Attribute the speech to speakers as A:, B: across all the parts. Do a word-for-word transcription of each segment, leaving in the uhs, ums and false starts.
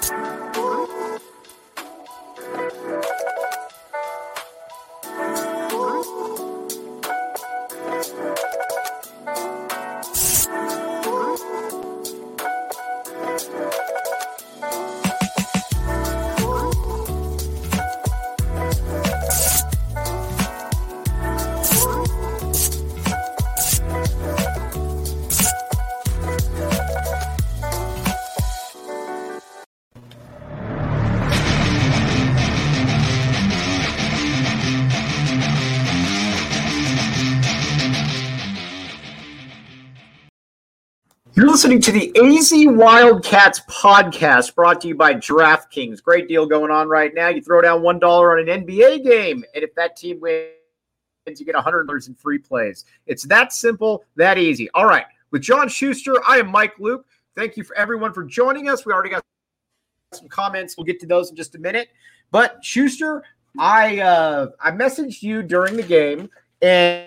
A: You're listening to the A Z Wildcats podcast brought to you by DraftKings. Great deal going on right now. You throw down one dollar on an N B A game, and if that team wins, you get one hundred dollars in free plays. It's that simple, that easy. All right. With John Schuster, I am Mike Luke. Thank you for everyone for joining us. We already got some comments. We'll get to those in just a minute. But Schuster, I uh, I messaged you during the game, and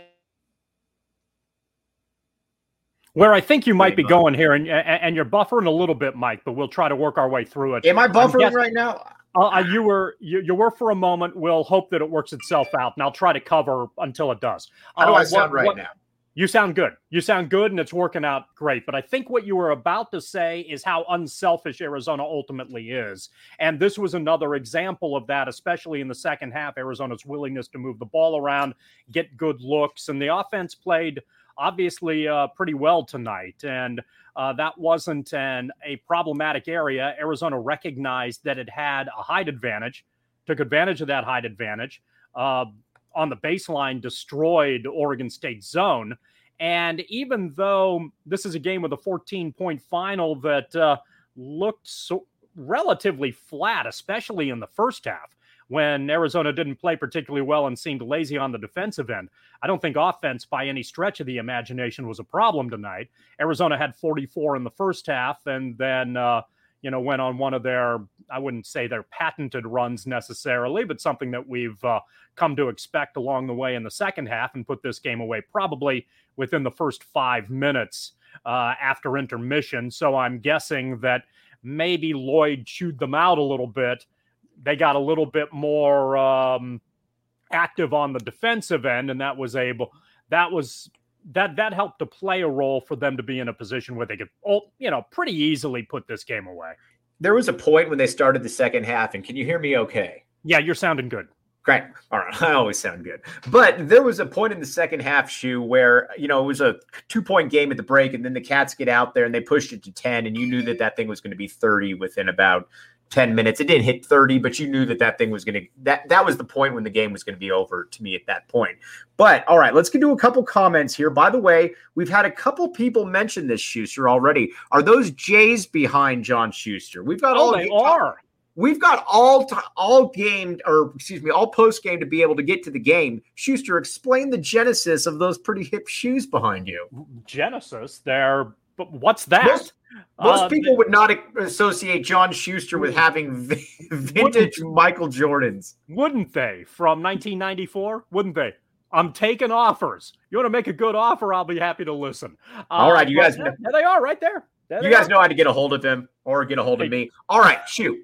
B: where I think you might be going here, and and you're buffering a little bit, Mike, but we'll try to work our way through it.
A: Am I buffering
B: guessing,
A: right now?
B: Uh, you were you, you were for a moment. We'll hope that it works itself out, and I'll try to cover until it does.
A: How do
B: uh,
A: I sound
B: what,
A: right
B: what,
A: now?
B: You sound good. You sound good, and it's working out great. But I think what you were about to say is how unselfish Arizona ultimately is. And this was another example of that, especially in the second half, Arizona's willingness to move the ball around, get good looks. And the offense played obviously uh, pretty well tonight. And uh, that wasn't an, a problematic area. Arizona recognized that it had a height advantage, took advantage of that height advantage. Uh, on the baseline, destroyed Oregon State's zone. And even though this is a game with a fourteen-point final that uh, looked so relatively flat, especially in the first half, when Arizona didn't play particularly well and seemed lazy on the defensive end, I don't think offense by any stretch of the imagination was a problem tonight. Arizona had forty-four in the first half, and then uh, you know, went on one of their, I wouldn't say their patented runs necessarily, but something that we've uh, come to expect along the way in the second half, and put this game away probably within the first five minutes uh, after intermission. So I'm guessing that maybe Lloyd chewed them out a little bit. They got a little bit more um, active on the defensive end, and that was able, that was, that that helped to play a role for them to be in a position where they could, you know, pretty easily put this game away.
A: There was a point when they started the second half, and can you hear me okay?
B: Yeah, you're sounding good.
A: Great. All right. I always sound good. But there was a point in the second half, Shu, where, you know, it was a two-point game at the break, and then the Cats get out there and they pushed it to ten, and you knew that that thing was going to be thirty within about ten minutes. It didn't hit thirty, but you knew that that thing was going to, that, that was the point when the game was going to be over to me at that point. But all right, let's get to a couple comments here. By the way, we've had a couple people mention this, Schuster, already. Are those Jays behind John Schuster? We've got
B: oh,
A: all
B: they are.
A: We've got all t- all game, or excuse me, all post game to be able to get to the game. Schuster, explain the genesis of those pretty hip shoes behind you.
B: Genesis? They're, but what's that?
A: Most, most
B: uh,
A: people would not associate John Schuster with having v- vintage Michael Jordans.
B: Wouldn't they? From nineteen ninety-four? Wouldn't they? I'm taking offers. You want to make a good offer? I'll be happy to listen. Uh,
A: all right, you guys.
B: There, there they are, right there. there
A: you guys are. know how to get a hold of him or get a hold of me. All right, shoot.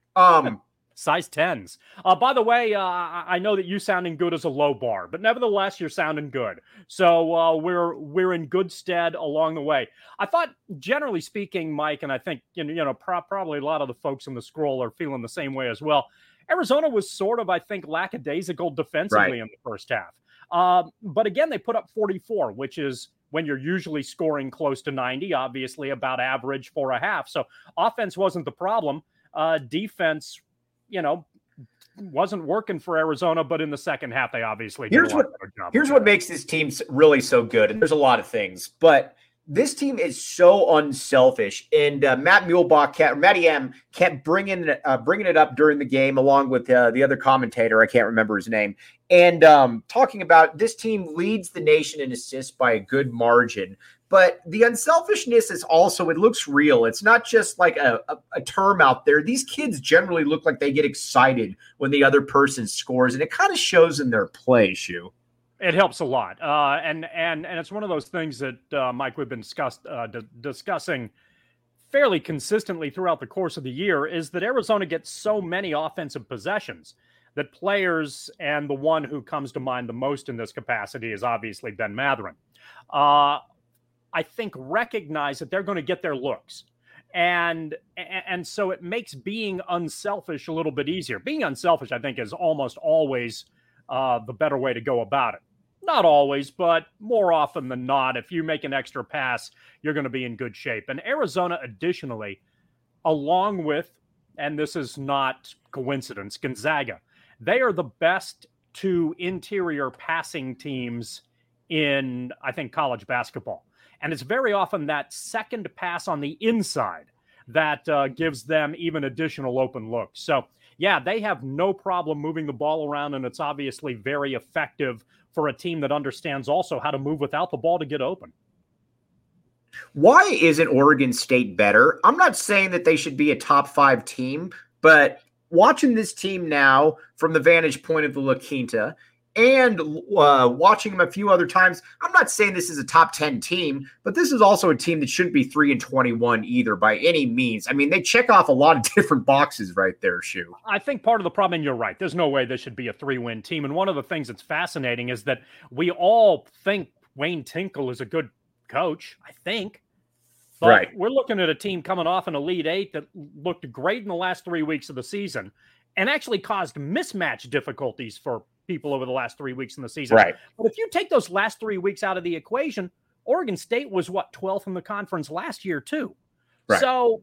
A: Um,
B: size tens. Uh, by the way, uh, I know that you sounding good as a low bar, but nevertheless, you're sounding good. So uh, we're we're in good stead along the way. I thought, generally speaking, Mike, and I think you know, you know pro- probably a lot of the folks in the scroll are feeling the same way as well. Arizona was sort of, I think, lackadaisical defensively
A: right.
B: in the first half. Um, but again, they put up forty-four, which is when you're usually scoring close to ninety, obviously about average for a half. So offense wasn't the problem. Uh, defense, you know, wasn't working for Arizona, but in the second half, they obviously did
A: here's
B: a lot
A: what,
B: better job.
A: Here's what makes this team really so good, and there's a lot of things, but this team is so unselfish. And uh, Matt Muehlbach, kept, Matty M, kept bringing, uh, bringing it up during the game, along with uh, the other commentator, I can't remember his name, and um, talking about this team leads the nation in assists by a good margin. But the unselfishness is also, it looks real. It's not just like a, a, a term out there. These kids generally look like they get excited when the other person scores, and it kind of shows in their play, Shu.
B: It helps a lot. Uh, and and and it's one of those things that, uh, Mike, we've been discussed, uh, d- discussing fairly consistently throughout the course of the year is that Arizona gets so many offensive possessions that players, and the one who comes to mind the most in this capacity is obviously Ben Mathurin, uh, I think recognize that they're going to get their looks. And and so it makes being unselfish a little bit easier. Being unselfish, I think, is almost always uh, the better way to go about it. Not always, but more often than not, if you make an extra pass, you're going to be in good shape. And Arizona, additionally, along with, and this is not coincidence, Gonzaga, they are the best two interior passing teams in, I think, college basketball. And it's very often that second pass on the inside that uh, gives them even additional open looks. So, yeah, they have no problem moving the ball around, and it's obviously very effective for a team that understands also how to move without the ball to get open.
A: Why isn't Oregon State better? I'm not saying that they should be a top five team, but watching this team now from the vantage point of the La Quinta and uh, watching them a few other times, I'm not saying this is a top ten team, but this is also a team that shouldn't be three and twenty-one either by any means. I mean, they check off a lot of different boxes right there, Shu.
B: I think part of the problem, and you're right, there's no way this should be a three-win team. And one of the things that's fascinating is that we all think Wayne Tinkle is a good coach, I think. But
A: right.
B: We're looking at a team coming off an Elite Eight that looked great in the last three weeks of the season and actually caused mismatch difficulties for people over the last three weeks in the season.
A: Right.
B: But if you take those last three weeks out of the equation, Oregon State was, what, twelfth in the conference last year, too. Right. So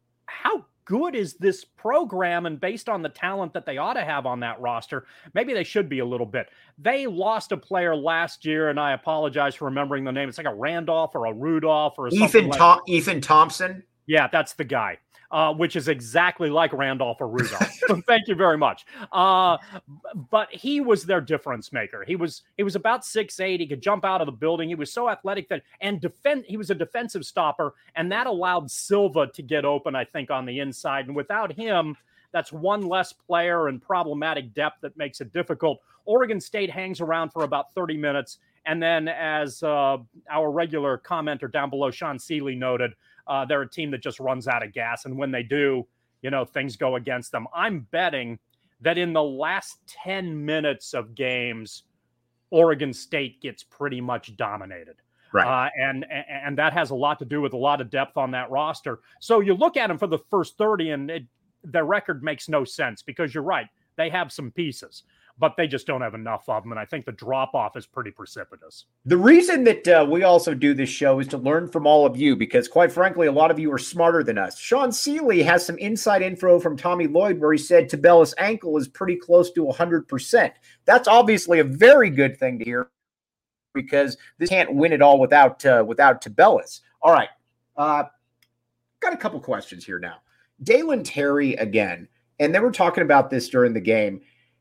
B: how good is this program? And based on the talent that they ought to have on that roster, maybe they should be a little bit. They lost a player last year, and I apologize for remembering the name. It's like a Randolph or a Rudolph or a
A: Ethan,
B: like
A: Tom- Ethan Thompson.
B: Yeah, that's the guy. Uh, which is exactly like Randolph or Rudolph. Thank you very much. Uh, but he was their difference maker. He was he was about six eight. He could jump out of the building. He was so athletic that and defend. He was a defensive stopper, and that allowed Silva to get open, I think, on the inside. And without him, that's one less player and problematic depth that makes it difficult. Oregon State hangs around for about thirty minutes, and then, as uh, our regular commenter down below, Sean Seeley, noted, Uh, they're a team that just runs out of gas. And when they do, you know, things go against them. I'm betting that in the last ten minutes of games, Oregon State gets pretty much dominated.
A: Right.
B: Uh, and, and that has a lot to do with a lot of depth on that roster. So you look at them for the first thirty and it, their record makes no sense because you're right. They have some pieces, but they just don't have enough of them. And I think the drop-off is pretty precipitous.
A: The reason that uh, we also do this show is to learn from all of you, because quite frankly, a lot of you are smarter than us. Sean Seeley has some inside info from Tommy Lloyd where he said Tabella's ankle is pretty close to one hundred percent. That's obviously a very good thing to hear because this can't win it all without, uh, without Tabella's. All right. Uh, got a couple questions here now. Dalen Terry again, and they were talking about this during the game.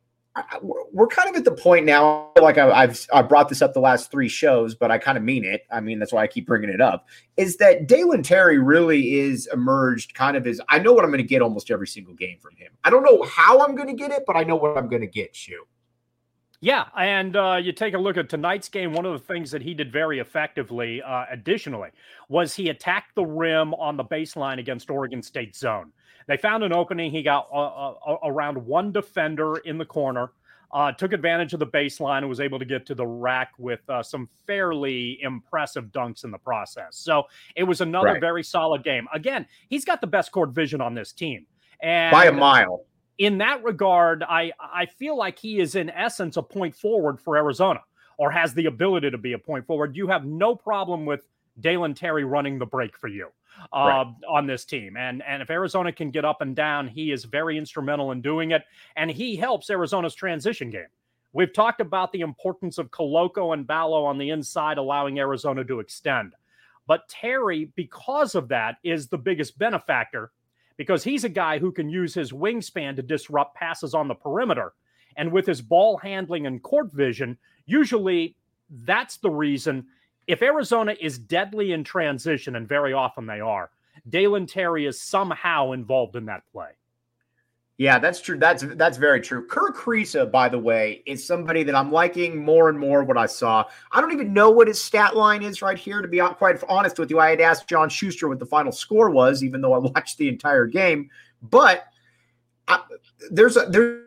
A: I, we're kind of at the point now, like I, I've I brought this up the last three shows, but I kind of mean it. I mean, that's why I keep bringing it up, is that Dalen Terry really is emerged kind of as, I know what I'm going to get almost every single game from him. I don't know how I'm going to get it, but I know what I'm going to get, Shu.
B: Yeah, and uh, you take a look at tonight's game, one of the things that he did very effectively, uh, additionally, was he attacked the rim on the baseline against Oregon State zone. They found an opening. He got uh, uh, around one defender in the corner, uh, took advantage of the baseline, and was able to get to the rack with uh, some fairly impressive dunks in the process. So it was another
A: right.
B: very solid game. Again, he's got the best court vision on this team. And
A: by a mile.
B: In that regard, I, I feel like he is, in essence, a point forward for Arizona, or has the ability to be a point forward. You have no problem with Dalen Terry running the break for you. Uh, right. on this team. And, and if Arizona can get up and down, he is very instrumental in doing it. And he helps Arizona's transition game. We've talked about the importance of Koloko and Ballo on the inside, allowing Arizona to extend. But Terry, because of that, is the biggest benefactor because he's a guy who can use his wingspan to disrupt passes on the perimeter. And with his ball handling and court vision, usually that's the reason. If Arizona is deadly in transition, and very often they are, Dalen Terry is somehow involved in that play.
A: Yeah, that's true. That's that's very true. Kerr Kriisa, by the way, is somebody that I'm liking more and more what I saw. I don't even know what his stat line is right here, to be quite honest with you. I had asked John Schuster what the final score was, even though I watched the entire game. But I, there's a there's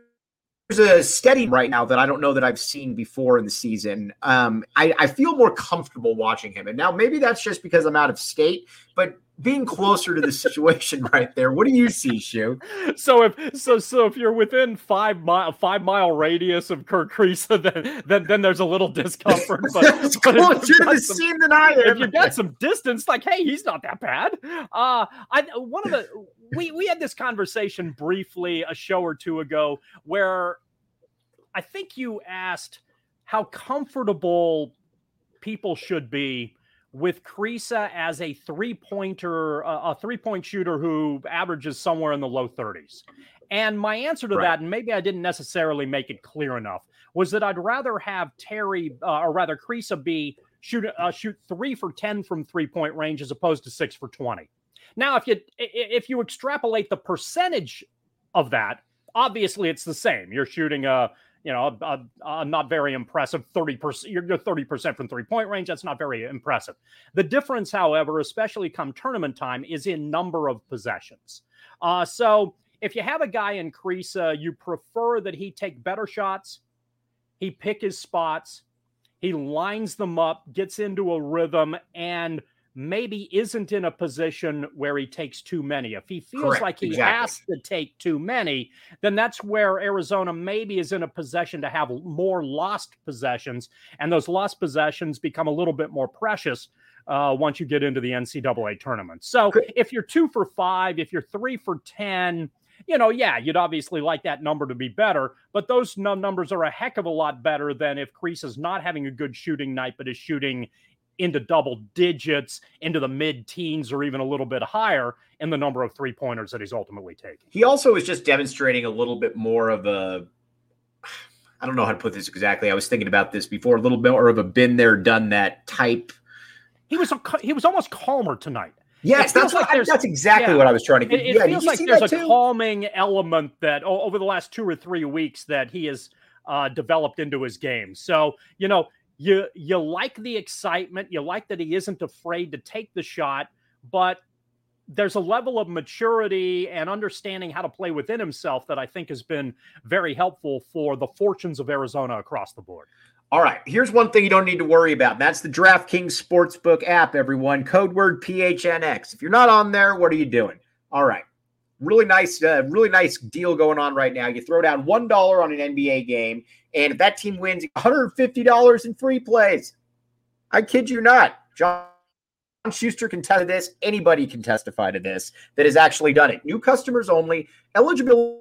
A: a steady right now that I don't know that I've seen before in the season. Um, I, I feel more comfortable watching him. And now maybe that's just because I'm out of state, but being closer to the situation right there. What do you see, Shu?
B: So if so so if you're within five mile five mile radius of Kerr Kriisa, then then then there's a little discomfort. But,
A: it's
B: but
A: closer to the some, scene than I am.
B: If you got some distance, like, hey, he's not that bad. Uh I one of the we we had this conversation briefly a show or two ago where I think you asked how comfortable people should be with Kriisa as a three-pointer, uh, a three-point shooter who averages somewhere in the low thirties. And my answer to right. that, and maybe I didn't necessarily make it clear enough, was that I'd rather have Terry, uh, or rather Kriisa, be shoot uh, shoot three for ten from three-point range as opposed to six for twenty. Now, if you if you extrapolate the percentage of that, obviously it's the same. You're shooting a You know, a, a, a not very impressive thirty percent. You're, you're thirty percent from three-point range. That's not very impressive. The difference, however, especially come tournament time, is in number of possessions. Uh, so if you have a guy in Kriisa, you prefer that he take better shots, he pick his spots, he lines them up, gets into a rhythm, and maybe isn't in a position where he takes too many. If he feels Correct. like he exactly. has to take too many, then that's where Arizona maybe is in a position to have more lost possessions, and those lost possessions become a little bit more precious uh, once you get into the N C double A tournament. So if you're two for five, if you're three for ten, you know, yeah, you'd obviously like that number to be better, but those numbers are a heck of a lot better than if Kriisa's not having a good shooting night, but is shooting into double digits, into the mid-teens, or even a little bit higher in the number of three-pointers that he's ultimately taking.
A: He also is just demonstrating a little bit more of a, I don't know how to put this exactly. I was thinking about this before, a little bit more of a been there, done that type.
B: He was a, he was almost calmer tonight.
A: Yes, that's like what, that's exactly yeah, what I was trying to get.
B: It, it
A: yeah,
B: feels like there's a too? calming element that oh, over the last two or three weeks that he has uh, developed into his game. So, you know, You you like the excitement. You like that he isn't afraid to take the shot, but there's a level of maturity and understanding how to play within himself that I think has been very helpful for the fortunes of Arizona across the board.
A: All right, here's one thing you don't need to worry about. That's the DraftKings Sportsbook app, everyone. Code word P H N X. If you're not on there, what are you doing? All right. Really nice, uh, really nice deal going on right now. You throw down one dollar on an N B A game, and if that team wins, one hundred fifty dollars in free plays. I kid you not. John Schuster can tell this. Anybody can testify to this that has actually done it. New customers only. Eligibility.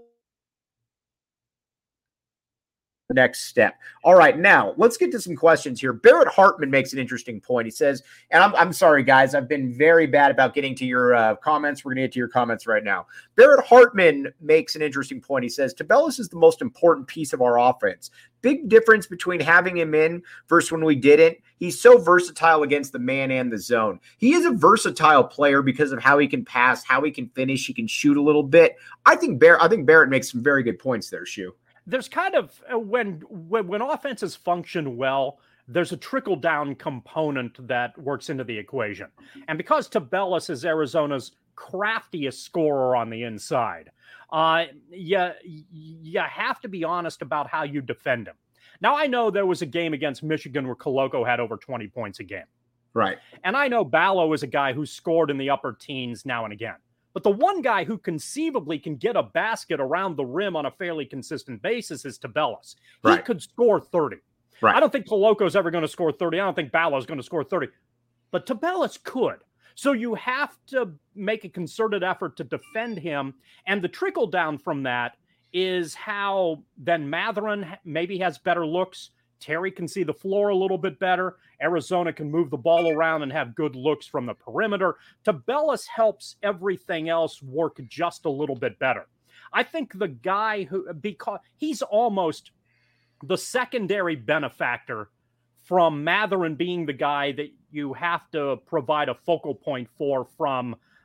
A: Next step. All right, now let's get to some questions here. Barrett Hartman makes an interesting point. He says, and I'm, I'm sorry, guys, I've been very bad about getting to your uh, comments. We're going to get to your comments right now. Barrett Hartman makes an interesting point. He says, Tubelis is the most important piece of our offense. Big difference between having him in versus when we didn't. He's so versatile against the man and the zone. He is a versatile player because of how he can pass, how he can finish, he can shoot a little bit. I think Barrett, I think Barrett makes some very good points there, Shu.
B: There's kind of when, when when offenses function well, there's a trickle down component that works into the equation. And because Tubelis is Arizona's craftiest scorer on the inside, uh, you, you have to be honest about how you defend him. Now, I know there was a game against Michigan where Koloko had over twenty points a game.
A: Right.
B: And I know Ballo is a guy who scored in the upper teens now and again. But the one guy who conceivably can get a basket around the rim on a fairly consistent basis is Tubelis. He
A: right.
B: could score thirty.
A: Right.
B: I don't think Koloko's ever going to score thirty. I don't think Ballo's going to score thirty. But Tubelis could. So you have to make a concerted effort to defend him. And the trickle down from that is how then Mathurin maybe has better looks. Terry can see the floor a little bit better. Arizona can move the ball around and have good looks from the perimeter. Tubelis helps everything else work just a little bit better. I think the guy who, because he's almost the secondary benefactor from Mathurin being the guy that you have to provide a focal point for from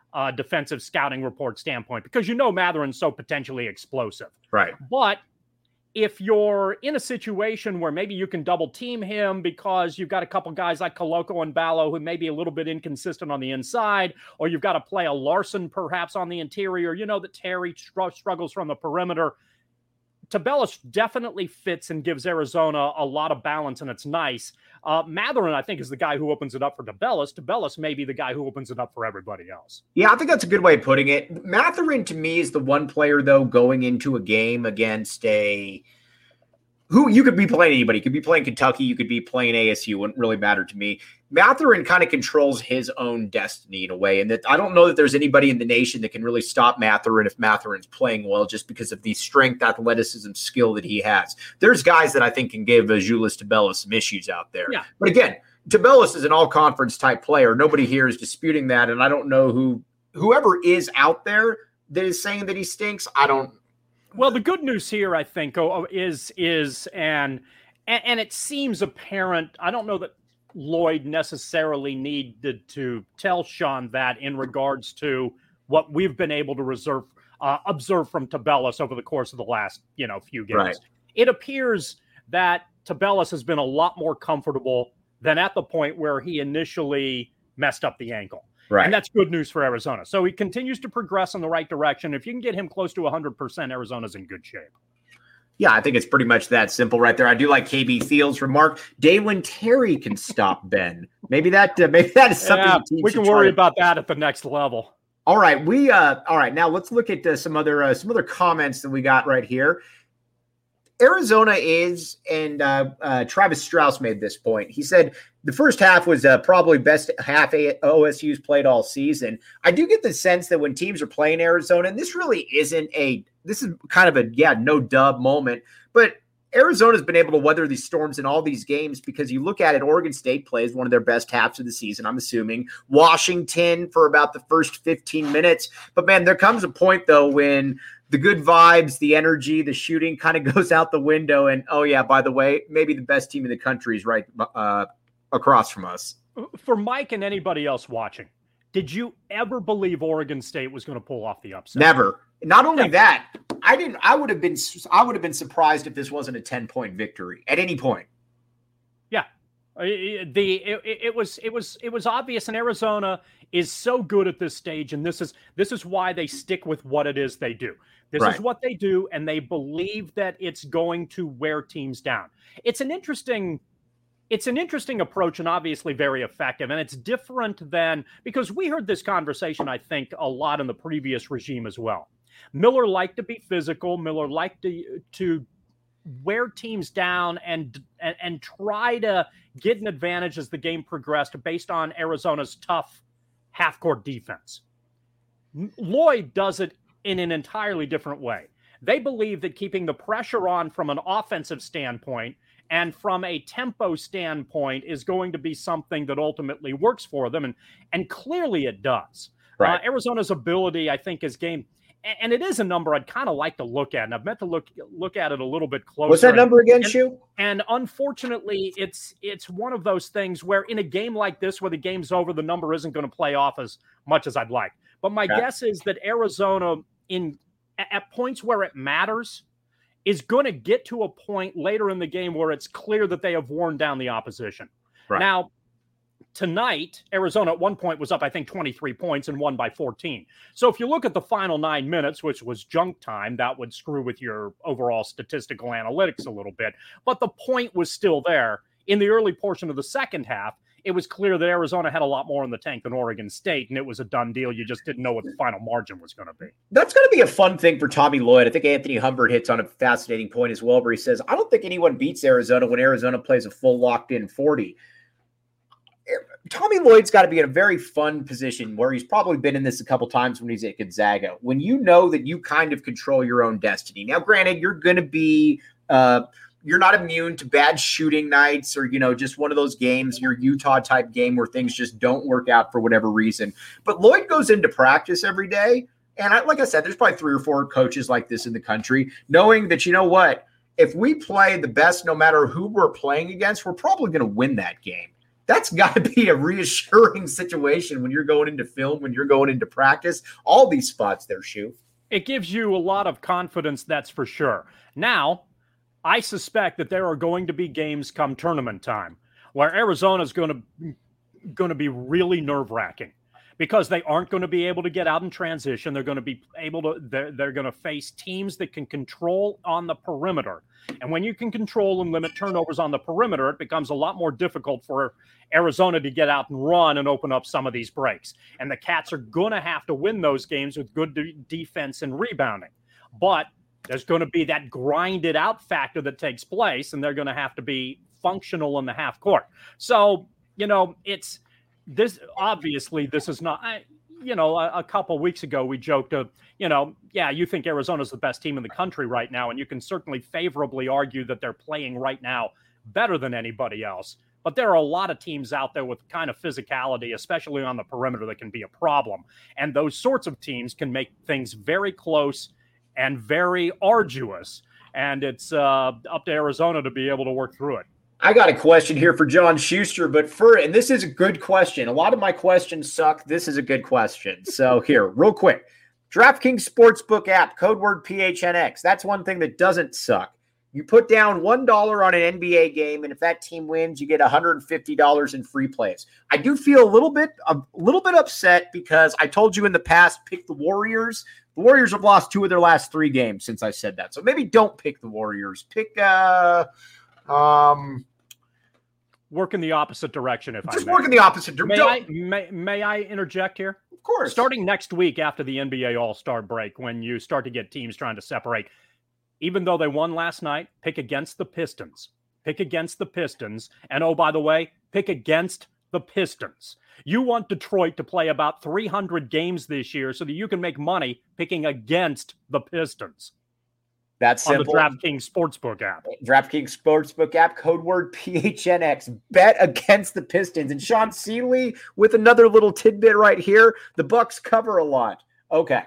B: uh, defensive scouting report standpoint, because you know Matherin's so potentially explosive.
A: Right.
B: But if you're in a situation where maybe you can double team him because you've got a couple guys like Koloko and Ballo who may be a little bit inconsistent on the inside, or you've got to play a Larson perhaps on the interior, you know that Terry str- struggles from the perimeter. Tubelis definitely fits and gives Arizona a lot of balance, and it's nice. Uh, Mathurin, I think, is the guy who opens it up for Tubelis. Tubelis may be the guy who opens it up for everybody else.
A: Yeah, I think that's a good way of putting it. Mathurin, to me, is the one player, though, going into a game against a – who you could be playing anybody. You could be playing Kentucky. You could be playing A S U. It wouldn't really matter to me. Mathurin kind of controls his own destiny in a way. And that I don't know that there's anybody in the nation that can really stop Mathurin if Mathurin's playing well, just because of the strength, athleticism, skill that he has. There's guys that I think can give uh, Julius Tubelis some issues out there.
B: Yeah.
A: But again, Tubelis is an all-conference type player. Nobody here is disputing that. And I don't know who whoever is out there that is saying that he stinks. I don't
B: Well, the good news here, I think, oh, is is and, and and it seems apparent. I don't know that Lloyd necessarily needed to tell Sean that in regards to what we've been able to reserve uh, observe from Tubelis over the course of the last you know few games.
A: Right.
B: It appears that Tubelis has been a lot more comfortable than at the point where he initially messed up the ankle.
A: Right.
B: And that's good news for Arizona. So he continues to progress in the right direction. If you can get him close to one hundred percent, Arizona's in good shape.
A: Yeah, I think it's pretty much that simple right there. I do like K B Fields' remark. Dalen Terry can stop Ben. Maybe that uh, maybe that is something
B: Yeah,
A: the team
B: we
A: should
B: can worry
A: try.
B: about that at the next level.
A: All right, we uh all right, now let's look at uh, some other uh, some other comments that we got right here. Arizona is, and uh, uh, Travis Strauss made this point. He said the first half was uh, probably best half O S U's played all season. I do get the sense that when teams are playing Arizona, and this really isn't a, this is kind of a, yeah, no dub moment, but Arizona's been able to weather these storms in all these games because you look at it, Oregon State plays one of their best halves of the season, I'm assuming. Washington for about the first fifteen minutes. But, man, there comes a point, though, when the good vibes, the energy, the shooting kind of goes out the window. And, oh, yeah, by the way, maybe the best team in the country is right uh, across from us.
B: For Mike and anybody else watching, did you ever believe Oregon State was going to pull off the upset?
A: Never. Not only that, I didn't. I would have been. I would have been surprised if this wasn't a ten-point victory at any point.
B: Yeah, the it, it was it was it was obvious, and Arizona is so good at this stage, and this is this is why they stick with what it is they do. This
A: Right.
B: is what they do, and they believe that it's going to wear teams down. It's an interesting. It's an interesting approach and obviously very effective. And it's different than, because we heard this conversation, I think, a lot in the previous regime as well. Miller liked to be physical. Miller liked to, to wear teams down and, and, and try to get an advantage as the game progressed based on Arizona's tough half-court defense. Lloyd does it in an entirely different way. They believe that keeping the pressure on from an offensive standpoint and from a tempo standpoint is going to be something that ultimately works for them. And, and clearly it does.
A: Right.
B: Uh, Arizona's ability, I think, is game. And it is a number I'd kind of like to look at. And I've meant to look look at it a little bit closer.
A: What's that number again,
B: and,
A: Shu?
B: And unfortunately, it's it's one of those things where in a game like this, where the game's over, the number isn't going to play off as much as I'd like. But my
A: Okay.
B: guess is that Arizona, in at points where it matters, is going to get to a point later in the game where it's clear that they have worn down the opposition.
A: Right.
B: Now, tonight, Arizona at one point was up, I think, twenty-three points and won by fourteen. So if you look at the final nine minutes, which was junk time, that would screw with your overall statistical analytics a little bit. But the point was still there. In the early portion of the second half, it was clear that Arizona had a lot more in the tank than Oregon State, and it was a done deal. You just didn't know what the final margin was going to be.
A: That's going to be a fun thing for Tommy Lloyd. I think Anthony Humbert hits on a fascinating point as well, where he says, I don't think anyone beats Arizona when Arizona plays a full locked-in forty. Tommy Lloyd's got to be in a very fun position where he's probably been in this a couple times when he's at Gonzaga, when you know that you kind of control your own destiny. Now, granted, you're going to be uh, – you're not immune to bad shooting nights or, you know, just one of those games, your Utah type game where things just don't work out for whatever reason. But Lloyd goes into practice every day. And I, like I said, there's probably three or four coaches like this in the country, knowing that, you know what, if we play the best, no matter who we're playing against, we're probably going to win that game. That's got to be a reassuring situation when you're going into film, when you're going into practice, all these spots there, Shu.
B: It gives you a lot of confidence, that's for sure. Now, I suspect that there are going to be games come tournament time where Arizona is going to going to be really nerve-wracking because they aren't going to be able to get out in transition. They're going to be able to they're, they're going to face teams that can control on the perimeter. And when you can control and limit turnovers on the perimeter, it becomes a lot more difficult for Arizona to get out and run and open up some of these breaks. And the Cats are going to have to win those games with good de- defense and rebounding. But there's going to be that grinded out factor that takes place, and they're going to have to be functional in the half court. So, you know, it's this obviously this is not, I, you know, a, a couple of weeks ago we joked, uh, you know, yeah, you think Arizona's the best team in the country right now, and you can certainly favorably argue that they're playing right now better than anybody else. But there are a lot of teams out there with kind of physicality, especially on the perimeter, that can be a problem. And those sorts of teams can make things very close and very arduous. And it's uh, up to Arizona to be able to work through it.
A: I got a question here for John Schuster, but for, and this is a good question. A lot of my questions suck. This is a good question. So here, real quick, DraftKings Sportsbook app, code word P H N X. That's one thing that doesn't suck. You put down one dollar on an N B A game, and if that team wins, you get one hundred fifty dollars in free plays. I do feel a little bit, a little bit upset because I told you in the past, pick the Warriors. The Warriors have lost two of their last three games since I said that. So maybe don't pick the Warriors. Pick, uh, um,
B: work in the opposite direction. If
A: just
B: I may.
A: work in the opposite direction.
B: May I, may, may I interject here?
A: Of course.
B: Starting next week after the N B A All-Star break, when you start to get teams trying to separate, even though they won last night, pick against the Pistons. Pick against the Pistons. And oh, by the way, pick against the Pistons. You want Detroit to play about three hundred games this year so that you can make money picking against the Pistons.
A: That's simple.
B: On the DraftKings Sportsbook app.
A: DraftKings Sportsbook app, code word P H N X. Bet against the Pistons. And Sean Seeley with another little tidbit right here. The Bucks cover a lot. Okay.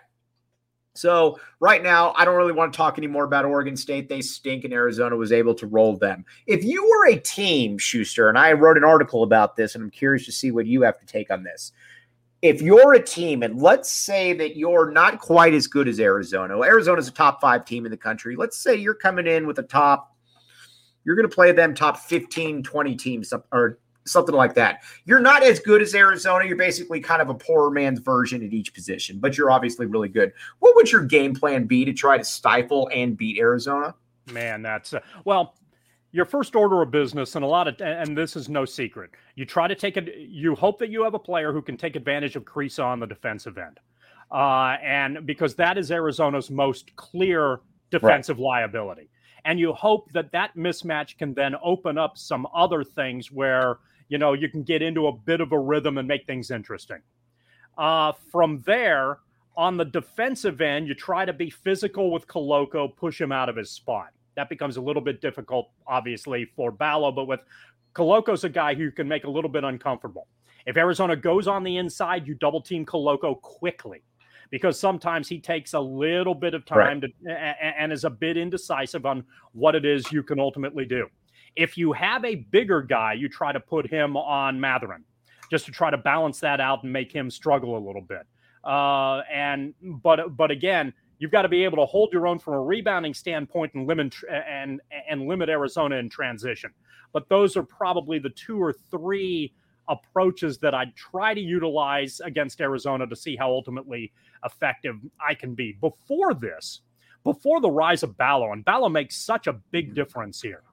A: So right now, I don't really want to talk anymore about Oregon State. They stink, and Arizona was able to roll them. If you were a team, Schuster, and I wrote an article about this, and I'm curious to see what you have to take on this. If you're a team, and let's say that you're not quite as good as Arizona. Well, Arizona's a top five team in the country. Let's say you're coming in with a top, you're going to play them top fifteen, twenty teams, or something like that. You're not as good as Arizona. You're basically kind of a poor man's version at each position, but you're obviously really good. What would your game plan be to try to stifle and beat Arizona?
B: Man, that's, uh, well, your first order of business, and a lot of, and this is no secret, you try to take it, you hope that you have a player who can take advantage of Kriisa on the defensive end. Uh, and because that is Arizona's most clear defensive right. liability. And you hope that that mismatch can then open up some other things where, you know, you can get into a bit of a rhythm and make things interesting. Uh, from there, on the defensive end, you try to be physical with Koloko, push him out of his spot. That becomes a little bit difficult, obviously, for Ballo, but with Koloko's a guy who can make a little bit uncomfortable. If Arizona goes on the inside, you double team Koloko quickly, because sometimes he takes a little bit of time right. to and is a bit indecisive on what it is you can ultimately do. If you have a bigger guy, you try to put him on Mathurin just to try to balance that out and make him struggle a little bit. Uh, and but but again, you've got to be able to hold your own from a rebounding standpoint and limit and and limit Arizona in transition. But those are probably the two or three approaches that I'd try to utilize against Arizona to see how ultimately effective I can be. Before this, before the rise of Ballo, and Ballo makes such a big difference here.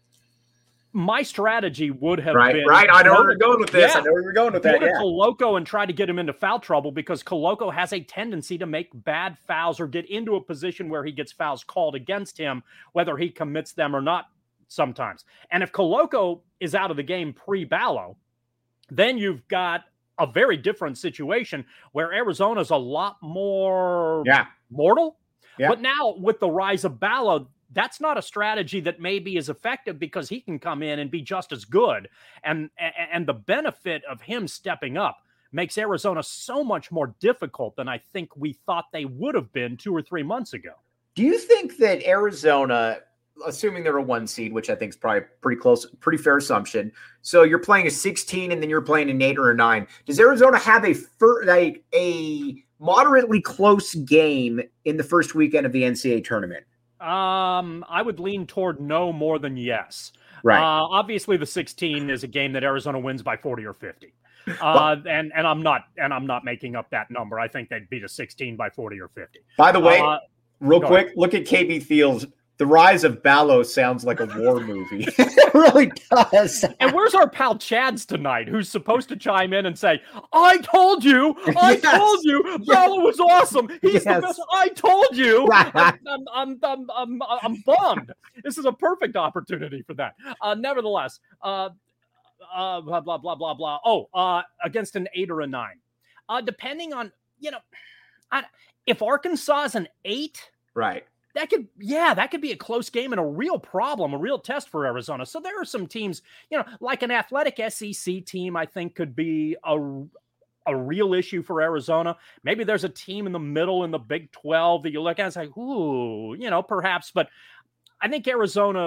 B: My strategy would have
A: right,
B: been...
A: Right, I know where you're going with this.
B: Yeah,
A: I know where you're going with that,
B: Go to
A: yeah.
B: Koloko and try to get him into foul trouble, because Koloko has a tendency to make bad fouls or get into a position where he gets fouls called against him, whether he commits them or not sometimes. And if Koloko is out of the game pre-Ballo, then you've got a very different situation where Arizona's a lot more
A: yeah.
B: mortal.
A: Yeah.
B: But now with the rise of Ballo, that's not a strategy that may be as effective, because he can come in and be just as good. And, and the benefit of him stepping up makes Arizona so much more difficult than I think we thought they would have been two or three months ago.
A: Do you think that Arizona assuming they're a one seed, which I think is probably pretty close, pretty fair assumption. So you're playing a sixteen and then you're playing an eight or a nine. Does Arizona have a fir- like a moderately close game in the first weekend of the N C double A tournament?
B: Um, I would lean toward no more than yes.
A: Right.
B: Uh, obviously, the sixteen is a game that Arizona wins by forty or fifty. Uh, and and I'm not and I'm not making up that number. I think they'd beat a sixteen by forty or fifty.
A: By the way,
B: uh,
A: real quick, ahead. Look at K B Fields. The Rise of Ballo sounds like a war movie. It really does.
B: And where's our pal Chads tonight, who's supposed to chime in and say, I told you, I yes. told you, yes. Ballo was awesome. He's yes. the best. I told you. I'm, I'm, I'm, I'm, I'm bummed. This is a perfect opportunity for that. Uh, nevertheless, uh, uh, blah, blah, blah, blah, blah. Oh, uh, against an eight or a nine. Uh, depending on, you know, I, if Arkansas is an eight.
A: Right.
B: That could, yeah, that could be a close game and a real problem, a real test for Arizona. So there are some teams, you know, like an athletic S E C team, I think could be a, a real issue for Arizona. Maybe there's a team in the middle in the Big twelve that you look at and say, ooh, you know, perhaps. But I think Arizona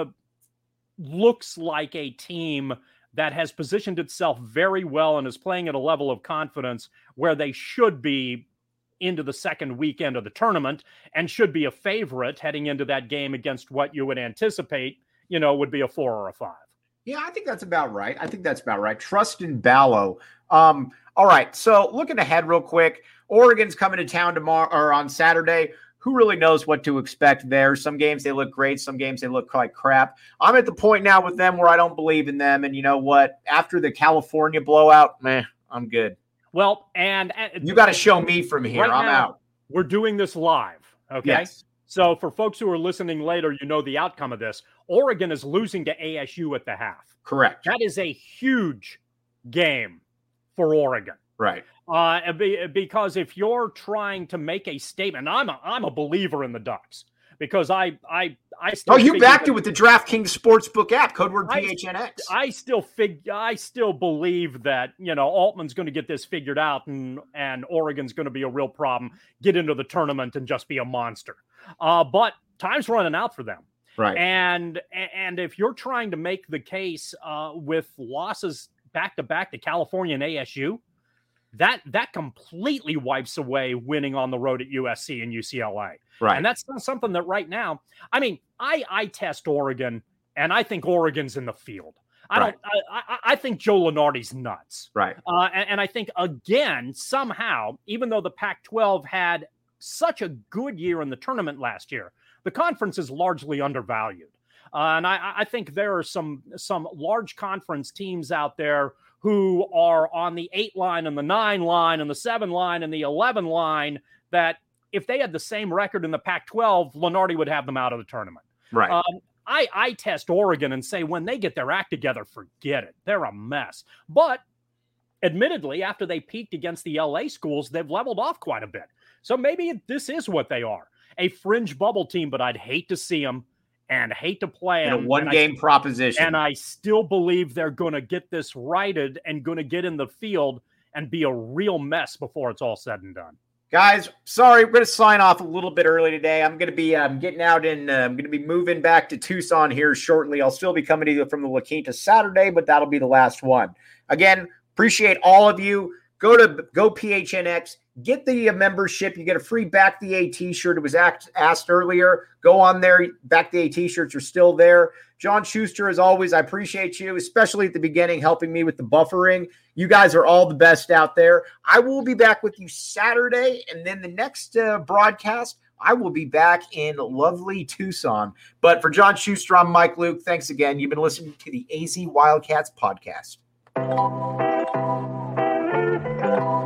B: looks like a team that has positioned itself very well and is playing at a level of confidence where they should be into the second weekend of the tournament and should be a favorite heading into that game against what you would anticipate, you know, would be a four or a five.
A: Yeah, I think that's about right. I think that's about right. Trust in Ballo. Um, all right. So looking ahead real quick, Oregon's coming to town tomorrow or on Saturday. Who really knows what to expect there? Some games they look great. Some games they look like crap. I'm at the point now with them where I don't believe in them. And you know what? After the California blowout, meh, I'm good.
B: Well, and, and
A: you got to show me from here. Right I'm now, out.
B: We're doing this live. Okay.
A: Yes.
B: So for folks who are listening later, you know the outcome of this. Oregon is losing to A S U at the half.
A: Correct.
B: That is a huge game for Oregon.
A: Right.
B: Uh, because if you're trying to make a statement, I'm a, I'm a believer in the Ducks because I, I, I still
A: oh, you backed it with the DraftKings Sportsbook app, code word P H N X.
B: I, I still fig, I still believe that, you know, Altman's going to get this figured out and, and Oregon's going to be a real problem, get into the tournament and just be a monster. Uh, but time's running out for them.
A: Right.
B: And, and if you're trying to make the case uh, with losses back to back to California and A S U, that, that completely wipes away winning on the road at U S C and U C L A.
A: Right.
B: And that's not something that right now, I mean, I, I test Oregon and I think Oregon's in the field. I
A: right.
B: don't, I, I, I think Joe Lunardi's nuts.
A: Right.
B: Uh, and, and I think again, somehow, even though the Pac twelve had such a good year in the tournament last year, the conference is largely undervalued. Uh, and I, I think there are some, some large conference teams out there who are on the eight line and the nine line and the seven line and the eleven line that if they had the same record in the Pac twelve, Lunardi would have them out of the tournament.
A: Right.
B: Um, I, I test Oregon and say when they get their act together, forget it. They're a mess. But admittedly, after they peaked against the L A schools, they've leveled off quite a bit. So maybe this is what they are, a fringe bubble team, but I'd hate to see them and hate to play
A: in
B: them.
A: a one-game
B: I,
A: proposition.
B: And I still believe they're going to get this righted and going to get in the field and be a real mess before it's all said and done.
A: Guys, sorry, we're going to sign off a little bit early today. I'm going to be um, getting out and uh, I'm going to be moving back to Tucson here shortly. I'll still be coming to you from the La Quinta Saturday, but that'll be the last one. Again, appreciate all of you. Go to Go P H N X, get the uh, membership. You get a free Back the A t-shirt. It was asked, asked earlier. Go on there. Back the A t-shirts are still there. John Schuster, as always, I appreciate you, especially at the beginning, helping me with the buffering. You guys are all the best out there. I will be back with you Saturday, and then the next uh, broadcast, I will be back in lovely Tucson. But for John Schuster, I'm Mike Luke. Thanks again. You've been listening to the A Z Wildcats podcast.